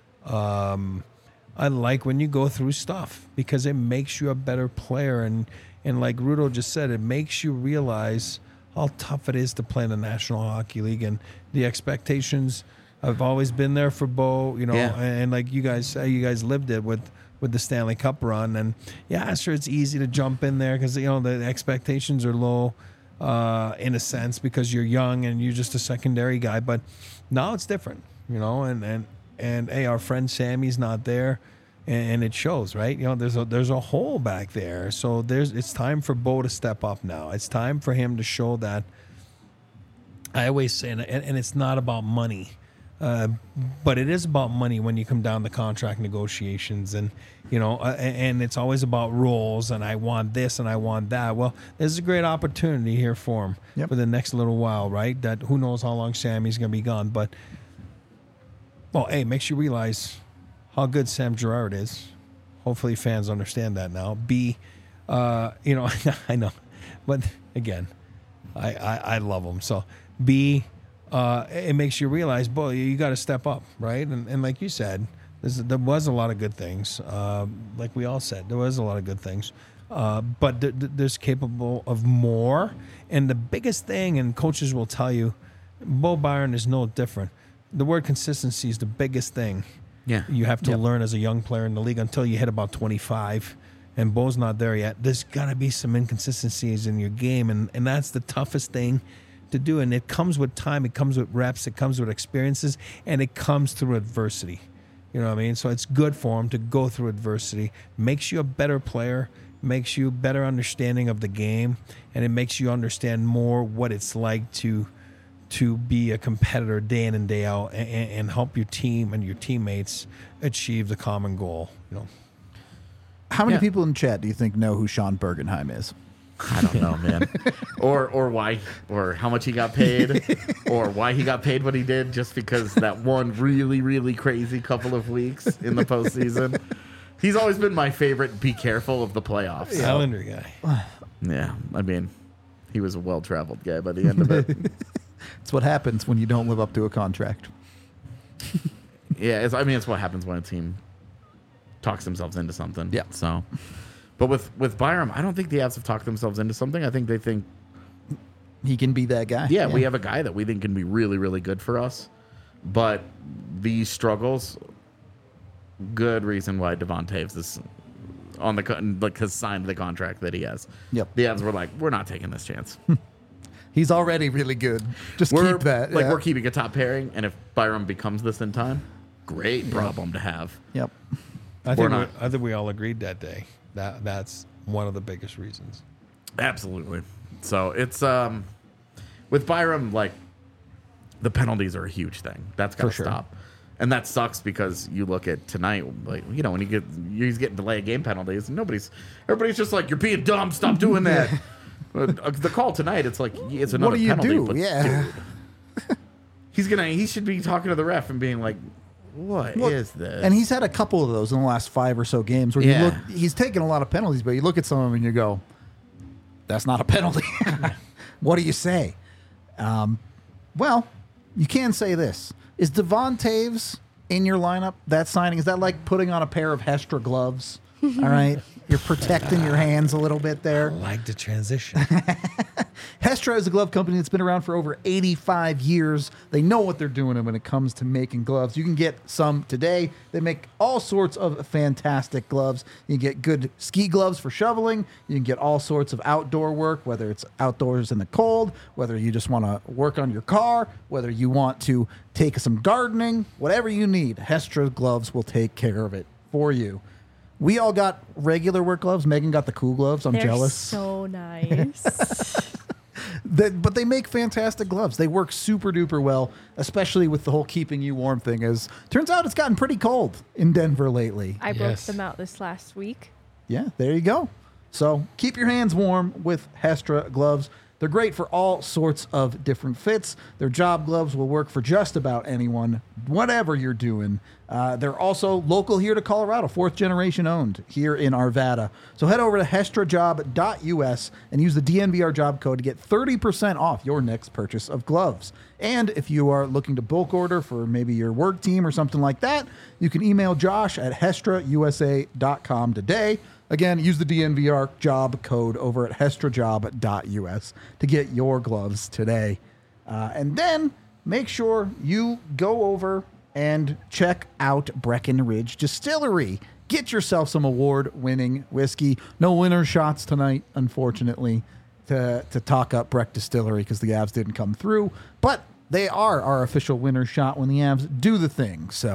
I like when you go through stuff because it makes you a better player. And like Rudo just said, it makes you realize how tough it is to play in the National Hockey League. And the expectations have always been there for Bo,
Yeah.
and like you guys lived it with the Stanley Cup run. And yeah, sure, it's easy to jump in there because, the expectations are low in a sense because you're young and you're just a secondary guy. But now it's different, and hey, our friend Sammy's not there. And it shows, right? There's a hole back there. So it's time for Bo to step up now. It's time for him to show that. I always say, and it's not about money. But it is about money when you come down to contract negotiations, and and it's always about roles. And I want this and I want that. Well, there's a great opportunity here for him for the next little while, right? That who knows how long Sammy's going to be gone, but makes you realize how good Sam Girard is. Hopefully, fans understand that now. B, I know, but again, I love him. So B. It makes you realize, boy, you got to step up, right? And like you said, there was a lot of good things. Like we all said, there was a lot of good things. But there's capable of more. And the biggest thing, and coaches will tell you, Bo Byron is no different. The word consistency is the biggest thing.
Yeah.
You have to learn as a young player in the league until you hit about 25. And Bo's not there yet. There's got to be some inconsistencies in your game. And that's the toughest thing to do, and it comes with time, it comes with reps, it comes with experiences, and it comes through adversity. You know what I mean? So it's good for him to go through adversity. Makes you a better player, makes you better understanding of the game, and it makes you understand more what it's like to be a competitor day in and day out, and help your team and your teammates achieve the common goal.
How many people in chat do you think know who Sean Bergenheim is?
I don't know, man. or why, or how much he got paid, or why he got paid what he did, just because that one really, really crazy couple of weeks in the postseason. He's always been my favorite. Be careful of the playoffs.
Calendar guy.
Yeah, I mean, he was a well-traveled guy by the end of it.
It's what happens when you don't live up to a contract.
Yeah, it's what happens when a team talks themselves into something.
Yeah.
So. But with Byram, I don't think the Avs have talked themselves into something. I think they think
he can be that guy.
Yeah, we have a guy that we think can be really, really good for us. But these struggles, good reason why Devon Taves is on has signed the contract that he has.
Yep.
The Avs were like, we're not taking this chance.
He's already really good. Just keep that.
We're keeping a top pairing, and if Byram becomes this in time, great problem to have.
Yep.
I think we all agreed that day. That's one of the biggest reasons.
Absolutely. So it's with Byram, like the penalties are a huge thing. That's got to stop, and that sucks because you look at tonight, like when he's getting delay of game penalties, and everybody's just like, you're being dumb. Stop doing that. The call tonight, it's like it's another penalty.
What do you do?
But dude, he should be talking to the ref and being like, What is this?
And he's had a couple of those in the last 5 or so games where you look, he's taken a lot of penalties, but you look at some of them and you go, that's not a penalty. What do you say? Well, you can say this. Is Devon Taves in your lineup, that signing? Is that like putting on a pair of Hestra gloves? All right. You're protecting your hands a little bit there.
I like the transition.
Hestra is a glove company that's been around for over 85 years. They know what they're doing when it comes to making gloves. You can get some today. They make all sorts of fantastic gloves. You can get good ski gloves for shoveling. You can get all sorts of outdoor work, whether it's outdoors in the cold, whether you just want to work on your car, whether you want to take some gardening, whatever you need, Hestra gloves will take care of it for you. We all got regular work gloves. Megan got the cool gloves. I'm jealous.
So nice.
But they make fantastic gloves. They work super duper well, especially with the whole keeping you warm thing. As turns out, it's gotten pretty cold in Denver lately.
I broke them out this last week.
Yeah, there you go. So keep your hands warm with Hestra gloves. They're great for all sorts of different fits. Their job gloves will work for just about anyone, whatever you're doing. They're also local here to Colorado, 4th generation owned here in Arvada. So head over to hestrajob.us and use the DNVR job code to get 30% off your next purchase of gloves. And if you are looking to bulk order for maybe your work team or something like that, you can email Josh at hestrausa.com today. Again, use the DNVR job code over at hestrajob.us to get your gloves today. And then make sure you go over and check out Breckenridge Distillery. Get yourself some award-winning whiskey. No winner shots tonight, unfortunately, to talk up Breck Distillery because the Avs didn't come through. But they are our official winner shot when the Avs do the thing. So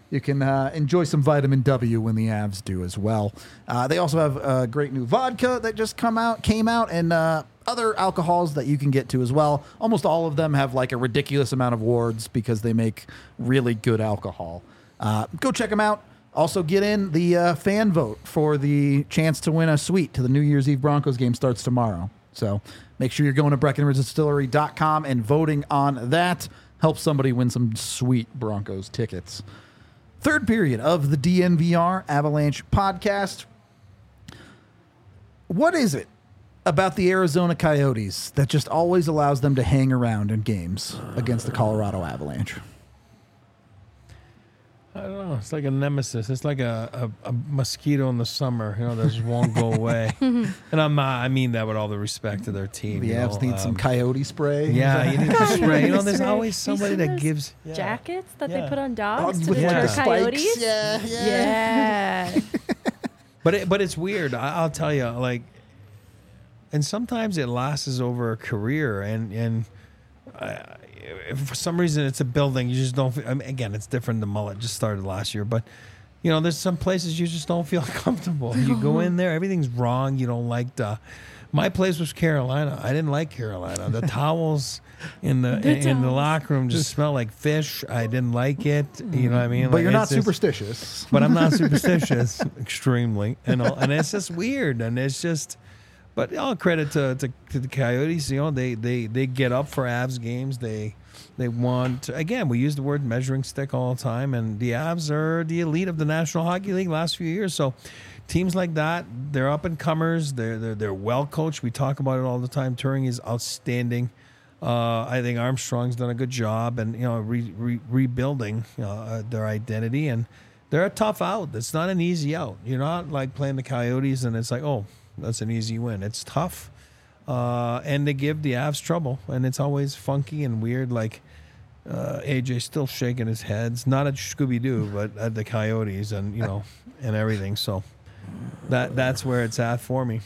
you can enjoy some vitamin W when the Avs do as well. They also have a great new vodka that just came out, and other alcohols that you can get to as well. Almost all of them have like a ridiculous amount of awards because they make really good alcohol. Go check them out. Also get in the fan vote for the chance to win a suite to the New Year's Eve Broncos game starts tomorrow. So make sure you're going to BreckenridgeDistillery.com and voting on that. Help somebody win some sweet Broncos tickets. Third period of the DNVR Avalanche podcast. What is it about the Arizona Coyotes that just always allows them to hang around in games against the Colorado Avalanche?
I don't know. It's like a nemesis. It's like a mosquito in the summer, that just won't go away. And I mean that with all the respect to their team.
The Avs need some coyote spray.
Yeah, you need to spray. There's
Spray.
always somebody
You seen
that
those
gives
jackets that they
Yeah.
put on dogs to
With like
deter
the spikes.
coyotes.
Yeah.
But it's weird. I'll tell you, and sometimes it lasts over a career, and if for some reason it's a building, you just don't. Again, it's different. The mullet just started last year, but there's some places you just don't feel comfortable. You go in there, everything's wrong. You don't like the. My place was Carolina. I didn't like Carolina. The towels in the locker room just smell like fish. I didn't like it. You know what I mean?
But you're not
it's just-
superstitious.
But I'm not superstitious, extremely, and it's just weird, and it's just. But all credit to the Coyotes. They get up for Avs games. They want, again, we use the word measuring stick all the time, and the Avs are the elite of the National Hockey League last few years. So teams like that, they're up and comers. They're well coached. We talk about it all the time. Turing is outstanding. I think Armstrong's done a good job, and rebuilding their identity, and they're a tough out. It's not an easy out. You're not like playing the Coyotes, and it's like, oh, that's an easy win. It's tough, and they give the Avs trouble, and it's always funky and weird. Like AJ still shaking his head, not at Scooby Doo, but at the Coyotes, and and everything. So that's where it's at for me.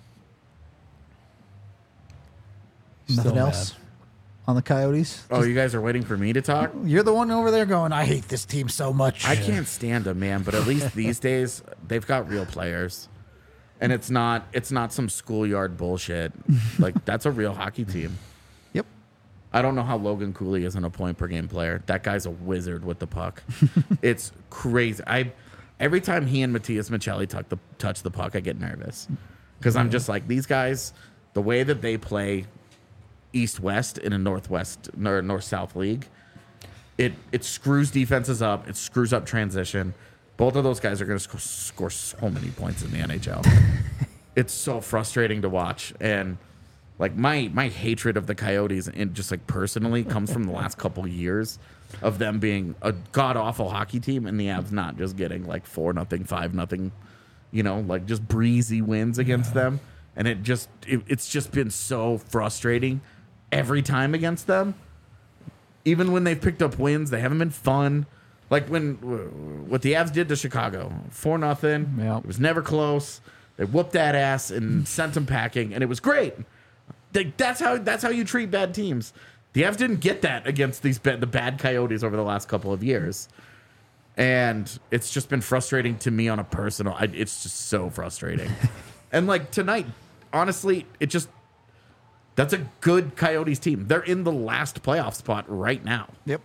Nothing
Still
else
mad.
on the Coyotes?
Oh, you guys are waiting for me to talk?
You're the one over there going, I hate this team so much.
I can't stand them, man. But at least these days, they've got real players, and it's not some schoolyard bullshit. Like, that's a real hockey team.
Yep.
I don't know how Logan Cooley isn't a point per game player. That guy's a wizard with the puck. It's crazy. Every time he and Matthias Michelli touch the puck, I get nervous because I'm just like, these guys, the way that they play East-West in a Northwest or North-South league, it screws defenses up. It screws up transition. Both of those guys are going to score so many points in the NHL. It's so frustrating to watch. And like my hatred of the Coyotes, and just like personally, comes from the last couple years of them being a god awful hockey team, and the Avs not just getting like 4-0, 5-0, like just breezy wins against them. And it's just been so frustrating every time against them. Even when they've picked up wins, they haven't been fun. Like what the Avs did to Chicago, 4-0.
Yeah.
It was never close. They whooped that ass and sent them packing, and it was great. That's how you treat bad teams. The Avs didn't get that against the bad Coyotes over the last couple of years, and it's just been frustrating to me on a personal. It's just so frustrating. And like tonight, honestly, that's a good Coyotes team. They're in the last playoff spot right now.
Yep.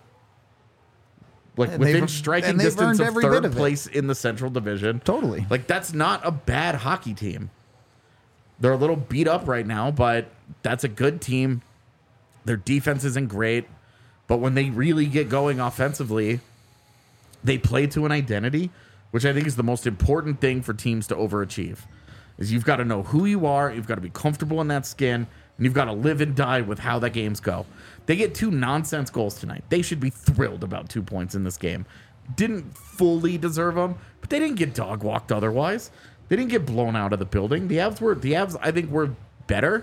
Like
And
within
they've-
striking
and they've
distance
earned
of
every bit
third
of it.
place in the Central Division.
Totally.
Like that's not a bad hockey team. They're a little beat up right now, but that's a good team. Their defense isn't great, but when they really get going offensively, they play to an identity, which I think is the most important thing for teams to overachieve. Is you've got to know who you are, you've got to be comfortable in that skin, and you've got to live and die with how the games go. They get 2 nonsense goals tonight. They should be thrilled about 2 points in this game. Didn't fully deserve them, but they didn't get dog walked otherwise. They didn't get blown out of the building. The Avs, I think, were better.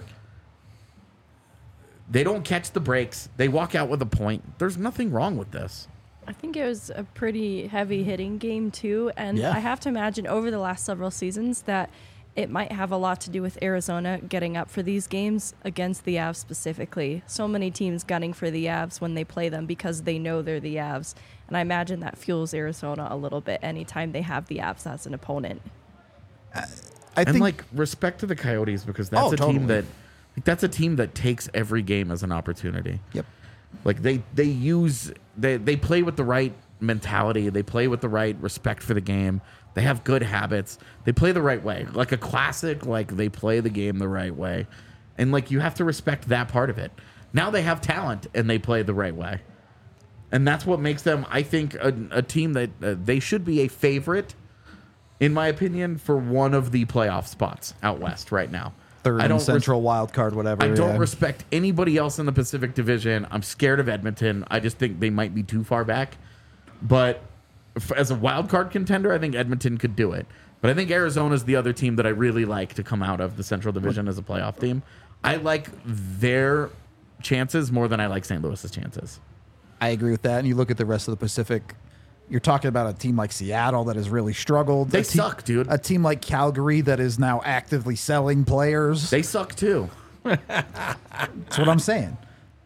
They don't catch the breaks. They walk out with a point. There's nothing wrong with this.
I think it was a pretty heavy hitting game too, and
Yeah.
I have to imagine over the last several seasons that it might have a lot to do with Arizona getting up for these games against the Avs specifically. So many teams gunning for the Avs when they play them because they know they're the Avs. And I imagine that fuels Arizona a little bit anytime they have the Avs as an opponent.
I think
like respect to the Coyotes because that's a
totally.
team that that's a team that takes every game as an opportunity.
Yep.
Like they play with the right mentality. They play with the right respect for the game. They have good habits. They play the right way. Like a classic, like they play the game the right way. And like you have to respect that part of it. Now they have talent and they play the right way. And that's what makes them, I think, a team that they should be a favorite, in my opinion, for one of the playoff spots out west right now.
third
I
and
don't
Central wild card, whatever.
I don't
yeah.
respect anybody else in the Pacific Division. I'm scared of Edmonton. I just think they might be too far back. But as a wild card contender, I think Edmonton could do it. But I think Arizona's the other team that I really like to come out of the Central Division as a playoff team. I like their chances more than I like St. Louis's chances.
I agree with that. And you look at the rest of the Pacific, you're talking about a team like Seattle that has really struggled.
They suck, dude.
A team like Calgary that is now actively selling players.
They suck too.
That's what I'm saying.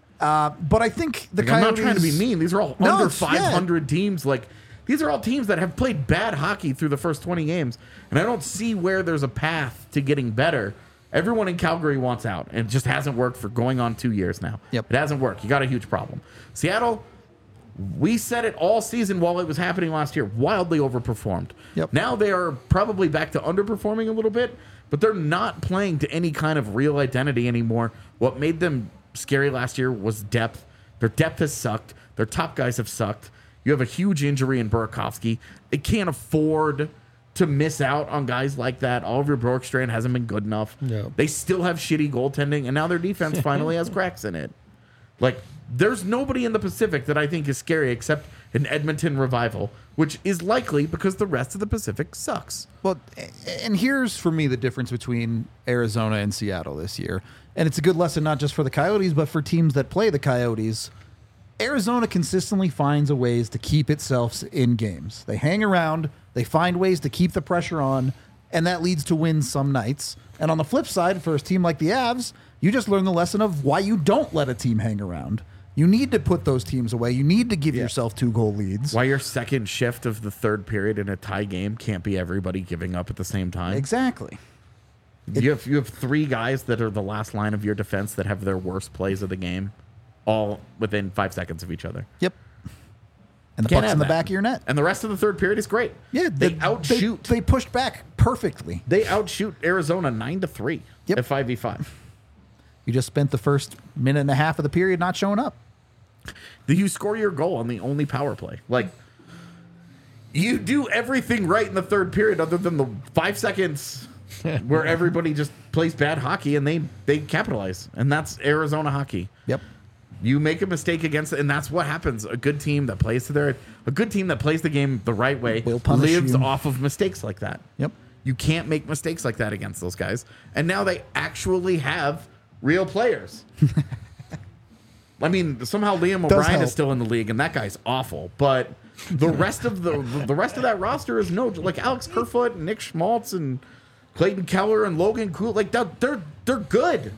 But I think the
Like, I'm not
Coyotes...
trying to be mean. These are all
No,
under
it's-
500 teams. Like these are all teams that have played bad hockey through the first 20 games, and I don't see where there's a path to getting better. Everyone in Calgary wants out, and it just hasn't worked for going on 2 years now.
Yep.
It hasn't worked. You got a huge problem. Seattle, we said it all season while it was happening last year, wildly overperformed.
Yep.
Now they are probably back to underperforming a little bit, but they're not playing to any kind of real identity anymore. What made them scary last year was depth. Their depth has sucked. Their top guys have sucked. You have a huge injury in Burakovsky. They can't afford to miss out on guys like that. Oliver Bjorkstrand hasn't been good enough.
No.
They still have shitty goaltending, and now their defense finally has cracks in it. Like, there's nobody in the Pacific that I think is scary except an Edmonton Revival, which is likely because the rest of the Pacific sucks.
Well, and here's for me the difference between Arizona and Seattle this year. And it's a good lesson not just for the Coyotes, but for teams that play the Coyotes. Arizona consistently finds a ways to keep itself in games. They hang around, they find ways to keep the pressure on, and that leads to wins some nights. And on the flip side, for a team like the Avs, you just learn the lesson of why you don't let a team hang around. You need to put those teams away. You need to give yourself 2-goal leads.
Why your second shift of the third period in a tie game can't be everybody giving up at the same time.
Exactly.
You have three guys that are the last line of your defense that have their worst plays of the game, all within 5 seconds of each other.
Yep. And the
Can't
puck's
have
in the
that.
back of your net.
And the rest of the third period is great.
Yeah,
they outshoot.
They pushed back perfectly.
They outshoot Arizona 9-3
Yep.
at 5v5.
You just spent the first minute and a half of the period not showing up.
You score your goal on the only power play. Like, you do everything right in the third period other than the 5 seconds where everybody just plays bad hockey and they capitalize. And that's Arizona hockey.
Yep.
You make a mistake against it, and that's what happens. A good team that plays the game the right way
Will punish
lives
you.
off of mistakes like that.
Yep.
You can't make mistakes like that against those guys. And now they actually have real players. I mean, somehow Liam
Does
O'Brien
help.
is still in the league, and that guy's awful. But the rest of the rest of that roster is like Alex Kerfoot, and Nick Schmaltz, and Clayton Keller, and Logan Cool. Like they're good.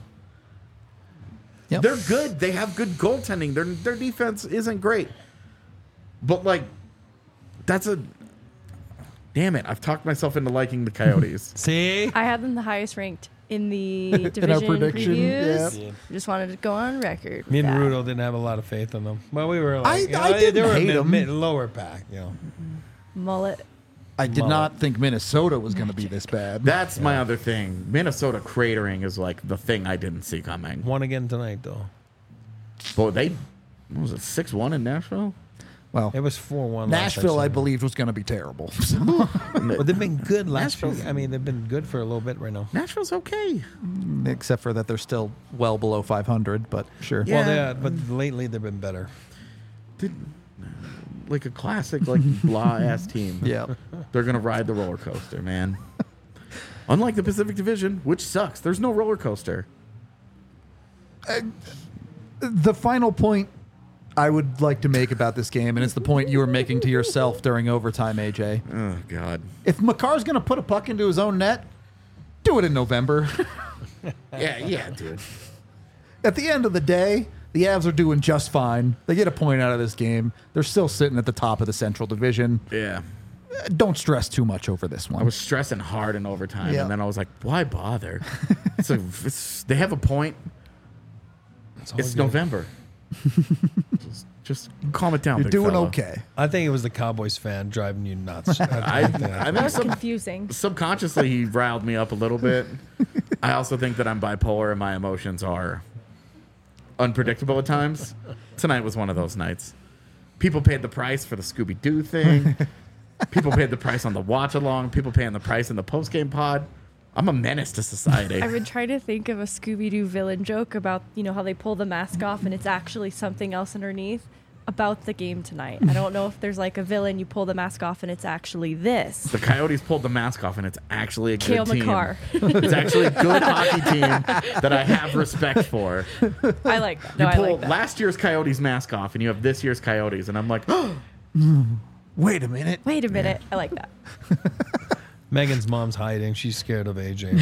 Yep.
They're good. They have good goaltending. Their defense isn't great. But like, that's a damn it. I've talked myself into liking the Coyotes.
See?
I had them the highest ranked in the division
In our prediction,
previews.
yeah.
Just wanted to go on record.
Me and
with that.
Rudo didn't have a lot of faith in them. Well, we were like,
I didn't
they were
hate 'em.
lower pack,
Mullet.
I did not think Minnesota was going to be this bad.
That's my other thing. Minnesota cratering is like the thing I didn't see coming.
Won again tonight, though.
But what was it, 6-1 in Nashville?
Well,
It was 4-1.
Nashville, I
last
believed, was going to be terrible.
But they've been good last week.
Nashville's-
I mean, they've been good for a little bit right now.
Nashville's okay.
Except for that they're still well below 500, but sure.
Yeah.
Well, but lately they've been better.
Like a classic, like blah ass team.
Yeah.
They're gonna ride the roller coaster, man. Unlike the Pacific Division, which sucks. There's no roller coaster.
The final point I would like to make about this game, and it's the point you were making to yourself during overtime, AJ.
Oh God.
If Makar's going to put a puck into his own net, do it in November.
Yeah, dude.
At the end of the day, The Avs are doing just fine. They get a point out of this game. They're still sitting at the top of the Central Division.
Yeah.
Don't stress too much over this one.
I was stressing hard in overtime,
Yeah.
and then I was like, why bother? They have a point.
It's all
It's
good.
November. just calm it down,
You're
big
doing
fella.
okay.
I think it was the Cowboys fan driving you nuts.
I
That
think
was confusing.
subconsciously he riled me up a little bit. I also think that I'm bipolar and my emotions are unpredictable at times. Tonight was one of those nights. People paid the price for the Scooby-Doo thing. People paid the price on the watch along. People paying the price in the post-game pod. I'm a menace to society.
I've been trying to think of a Scooby-Doo villain joke about, how they pull the mask off and it's actually something else underneath about the game tonight. I don't know if there's like a villain, you pull the mask off and it's actually this.
The Coyotes pulled the mask off, and it's actually a good
Cale
team.
Makar.
It's actually a good hockey team that I have respect for.
I like that.
You
No, I
pull
like that.
last year's Coyotes mask off, and you have this year's Coyotes, and I'm like,
Wait a minute.
Wait a minute. I like that.
Megan's mom's hiding. She's scared of AJ.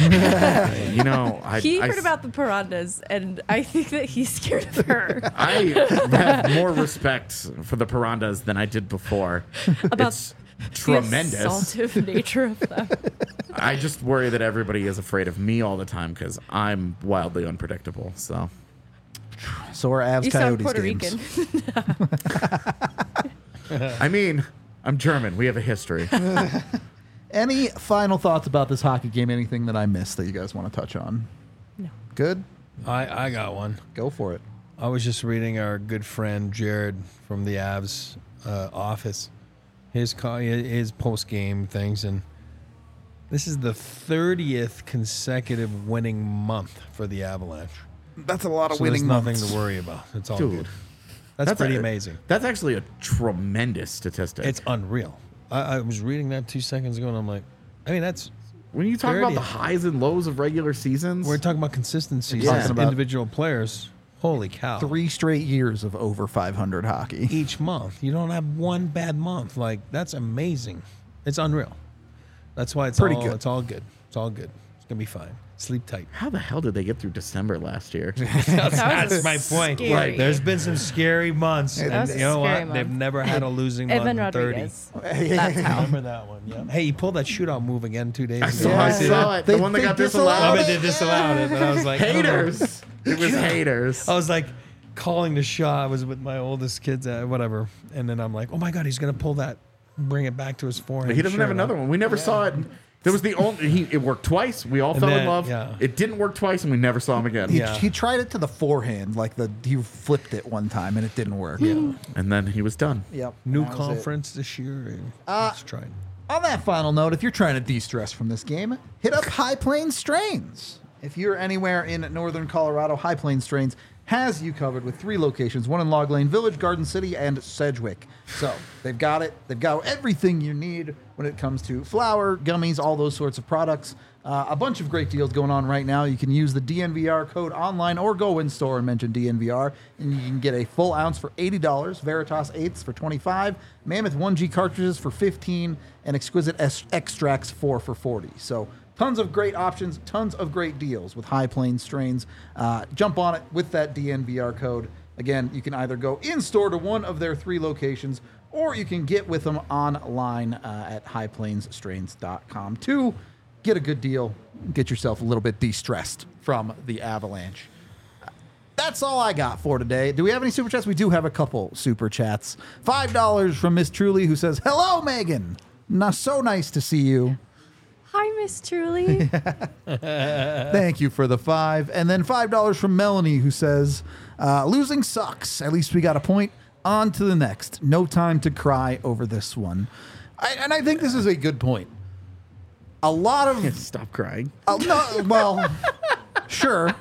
He
I
heard about the piranhas, and I think that he's scared of her.
I have more respect for the Piranhas than I did before.
About
It's tremendous.
The assaultive nature of them.
I just worry that everybody is afraid of me all the time because I'm wildly unpredictable. So
So are Avs
You sound
Coyotes
Puerto
games.
Rican.
I mean, I'm German. We have a history.
Any final thoughts about this hockey game? Anything that I missed that you guys want to touch on?
No.
Good?
I got one.
Go for it.
I was just reading our good friend Jared from the Avs office, his post game things, and this is the 30th consecutive winning month for the Avalanche.
That's a lot of
So there's
winning
nothing
months.
to worry about. It's all
Dude,
good. That's pretty
a-
amazing.
That's actually a tremendous statistic.
It's unreal. I was reading that 2 seconds ago, and I'm like, that's
when you talk about
30th.
the highs and lows of regular seasons.
we're talking about consistency
Yeah.
as
Talking about-
individual players. Holy cow!
3 straight years of over 500 hockey.
Each month, you don't have one bad month. Like that's amazing. It's unreal. That's why it's
Pretty
all
good.
It's all good. It's all good. It's gonna be fine. Sleep tight.
How the hell did they get through December last year?
That's my point.
scary.
Like, there's been some scary months,
That
and
was a
you know
scary
what? They've
month.
never had a losing month
Evan
in 30.
Rodriguez. That's how.
Remember that one? Yeah. Hey, you pulled that shootout move again 2 days
I
ago.
saw,
Yeah.
I saw it. The
They-
one that
they
got
disallowed
I
disallowed.
mean, they disallowed it, but I was like, I don't know.
Haters. It was haters.
I was like calling the shot. I was with my oldest kids, whatever, and then I'm like, oh my god, he's gonna pull that, bring it back to his forehand.
He doesn't have another one. We never saw it. There was the only. It worked twice. We all
And
fell in
then-
love.
yeah.
It didn't work twice, and we never saw him again.
Yeah.
He tried it to the forehand, he flipped it one time and it didn't work.
Yeah.
And then he was done.
Yep.
New
that was it.
conference this year. And let's try it.
On that final note, if you're trying to de-stress from this game, hit up High Plains Strains. If you're anywhere in northern Colorado, High Plains Strains has you covered with 3 locations, one in Log Lane Village, Garden City, and Sedgwick. So they've got it. They've got everything you need when it comes to flour, gummies, all those sorts of products. A bunch of great deals going on right now. You can use the DNVR code online or go in store and mention DNVR, and you can get a full ounce for $80, Veritas 8s for $25, Mammoth 1G cartridges for $15, and Exquisite extracts 4 for $40. So tons of great options, tons of great deals with High Plains Strains. Jump on it with that DNVR code. Again, you can either go in store to one of their 3 locations, or you can get with them online at highplainsstrains.com to get a good deal, get yourself a little bit de-stressed from the Avalanche. That's all I got for today. Do we have any super chats? We do have a couple super chats. $5 from Miss Truly, who says, "Hello, Megan. So nice to see you."
Hi, Miss Truly.
Thank you for the 5. And then $5 from Melanie, who says, "Losing sucks. At least we got a point. On to the next. No time to cry over this one." And I think this is a good point. A lot of...
Stop crying.
no, well, sure.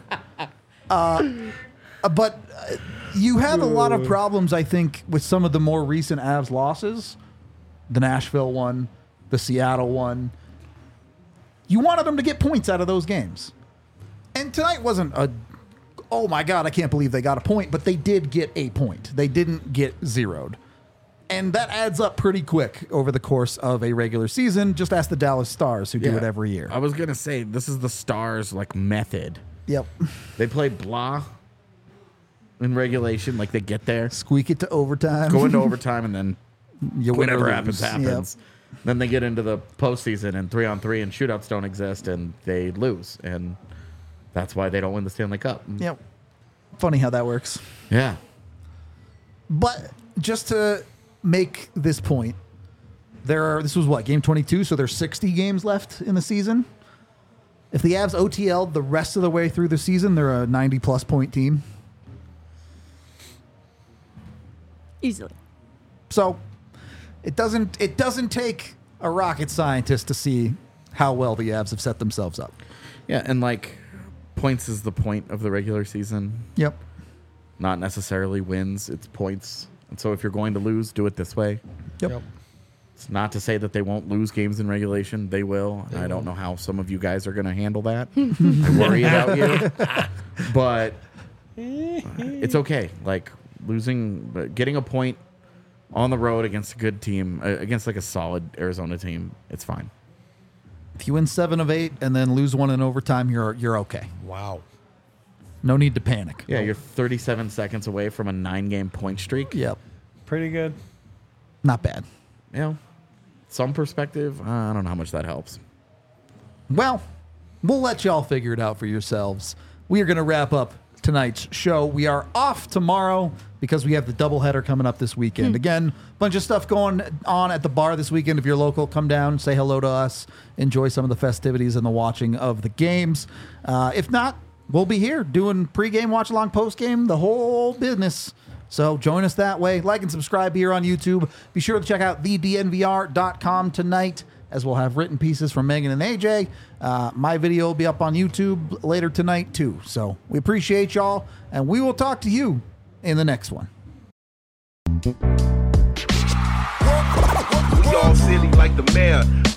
But you have a lot of problems, I think, with some of the more recent Avs losses. The Nashville one, the Seattle one. You wanted them to get points out of those games. And tonight wasn't a, oh my God, I can't believe they got a point, but they did get a point. They didn't get zeroed. And that adds up pretty quick over the course of a regular season. Just ask the Dallas Stars, who do it every year.
I was gonna say this is the Stars like method.
Yep.
They play blah, in regulation. Like they get there,
Squeak it to overtime.
go into overtime, and then
You win or
whatever
lose.
happens, happens. Then they get into the postseason and 3-on-3 and shootouts don't exist and they lose. And that's why they don't win the Stanley Cup.
Yep. Funny how that works.
Yeah.
But just to make this point, this was what, game 22, so there's 60 games left in the season. If the Avs OTL the rest of the way through the season, they're a 90-plus point team.
Easily.
So it doesn't take a rocket scientist to see how well the Avs have set themselves up.
Yeah. And like points is the point of the regular season,
Yep.
not necessarily wins. It's points. And so if you're going to lose, do it this way.
Yep.
It's not to say that they won't lose games in regulation. They will. I don't know how some of you guys are going to handle that. I worry about you. But it's okay. Like getting a point on the road against a good team, against like a solid Arizona team, it's fine.
If you win 7 of 8 and then lose one in overtime, you're okay.
Wow.
No need to panic.
Yeah, you're 37 seconds away from a 9-game point streak.
Yep.
Pretty good.
Not bad.
You know, some perspective, I don't know how much that helps.
Well, we'll let y'all figure it out for yourselves. We are going to wrap up tonight's show. We are off tomorrow because we have the doubleheader coming up this weekend. Again, bunch of stuff going on at the bar this weekend. If you're local, come down, say hello to us, enjoy some of the festivities and the watching of the games. If not, we'll be here doing pregame, watch along, postgame, the whole business. So join us that way. Like and subscribe here on YouTube. Be sure to check out thednvr.com tonight, as we'll have written pieces from Megan and AJ. My video will be up on YouTube later tonight, too. So we appreciate y'all, and we will talk to you in the next one.
We all silly like the mayor.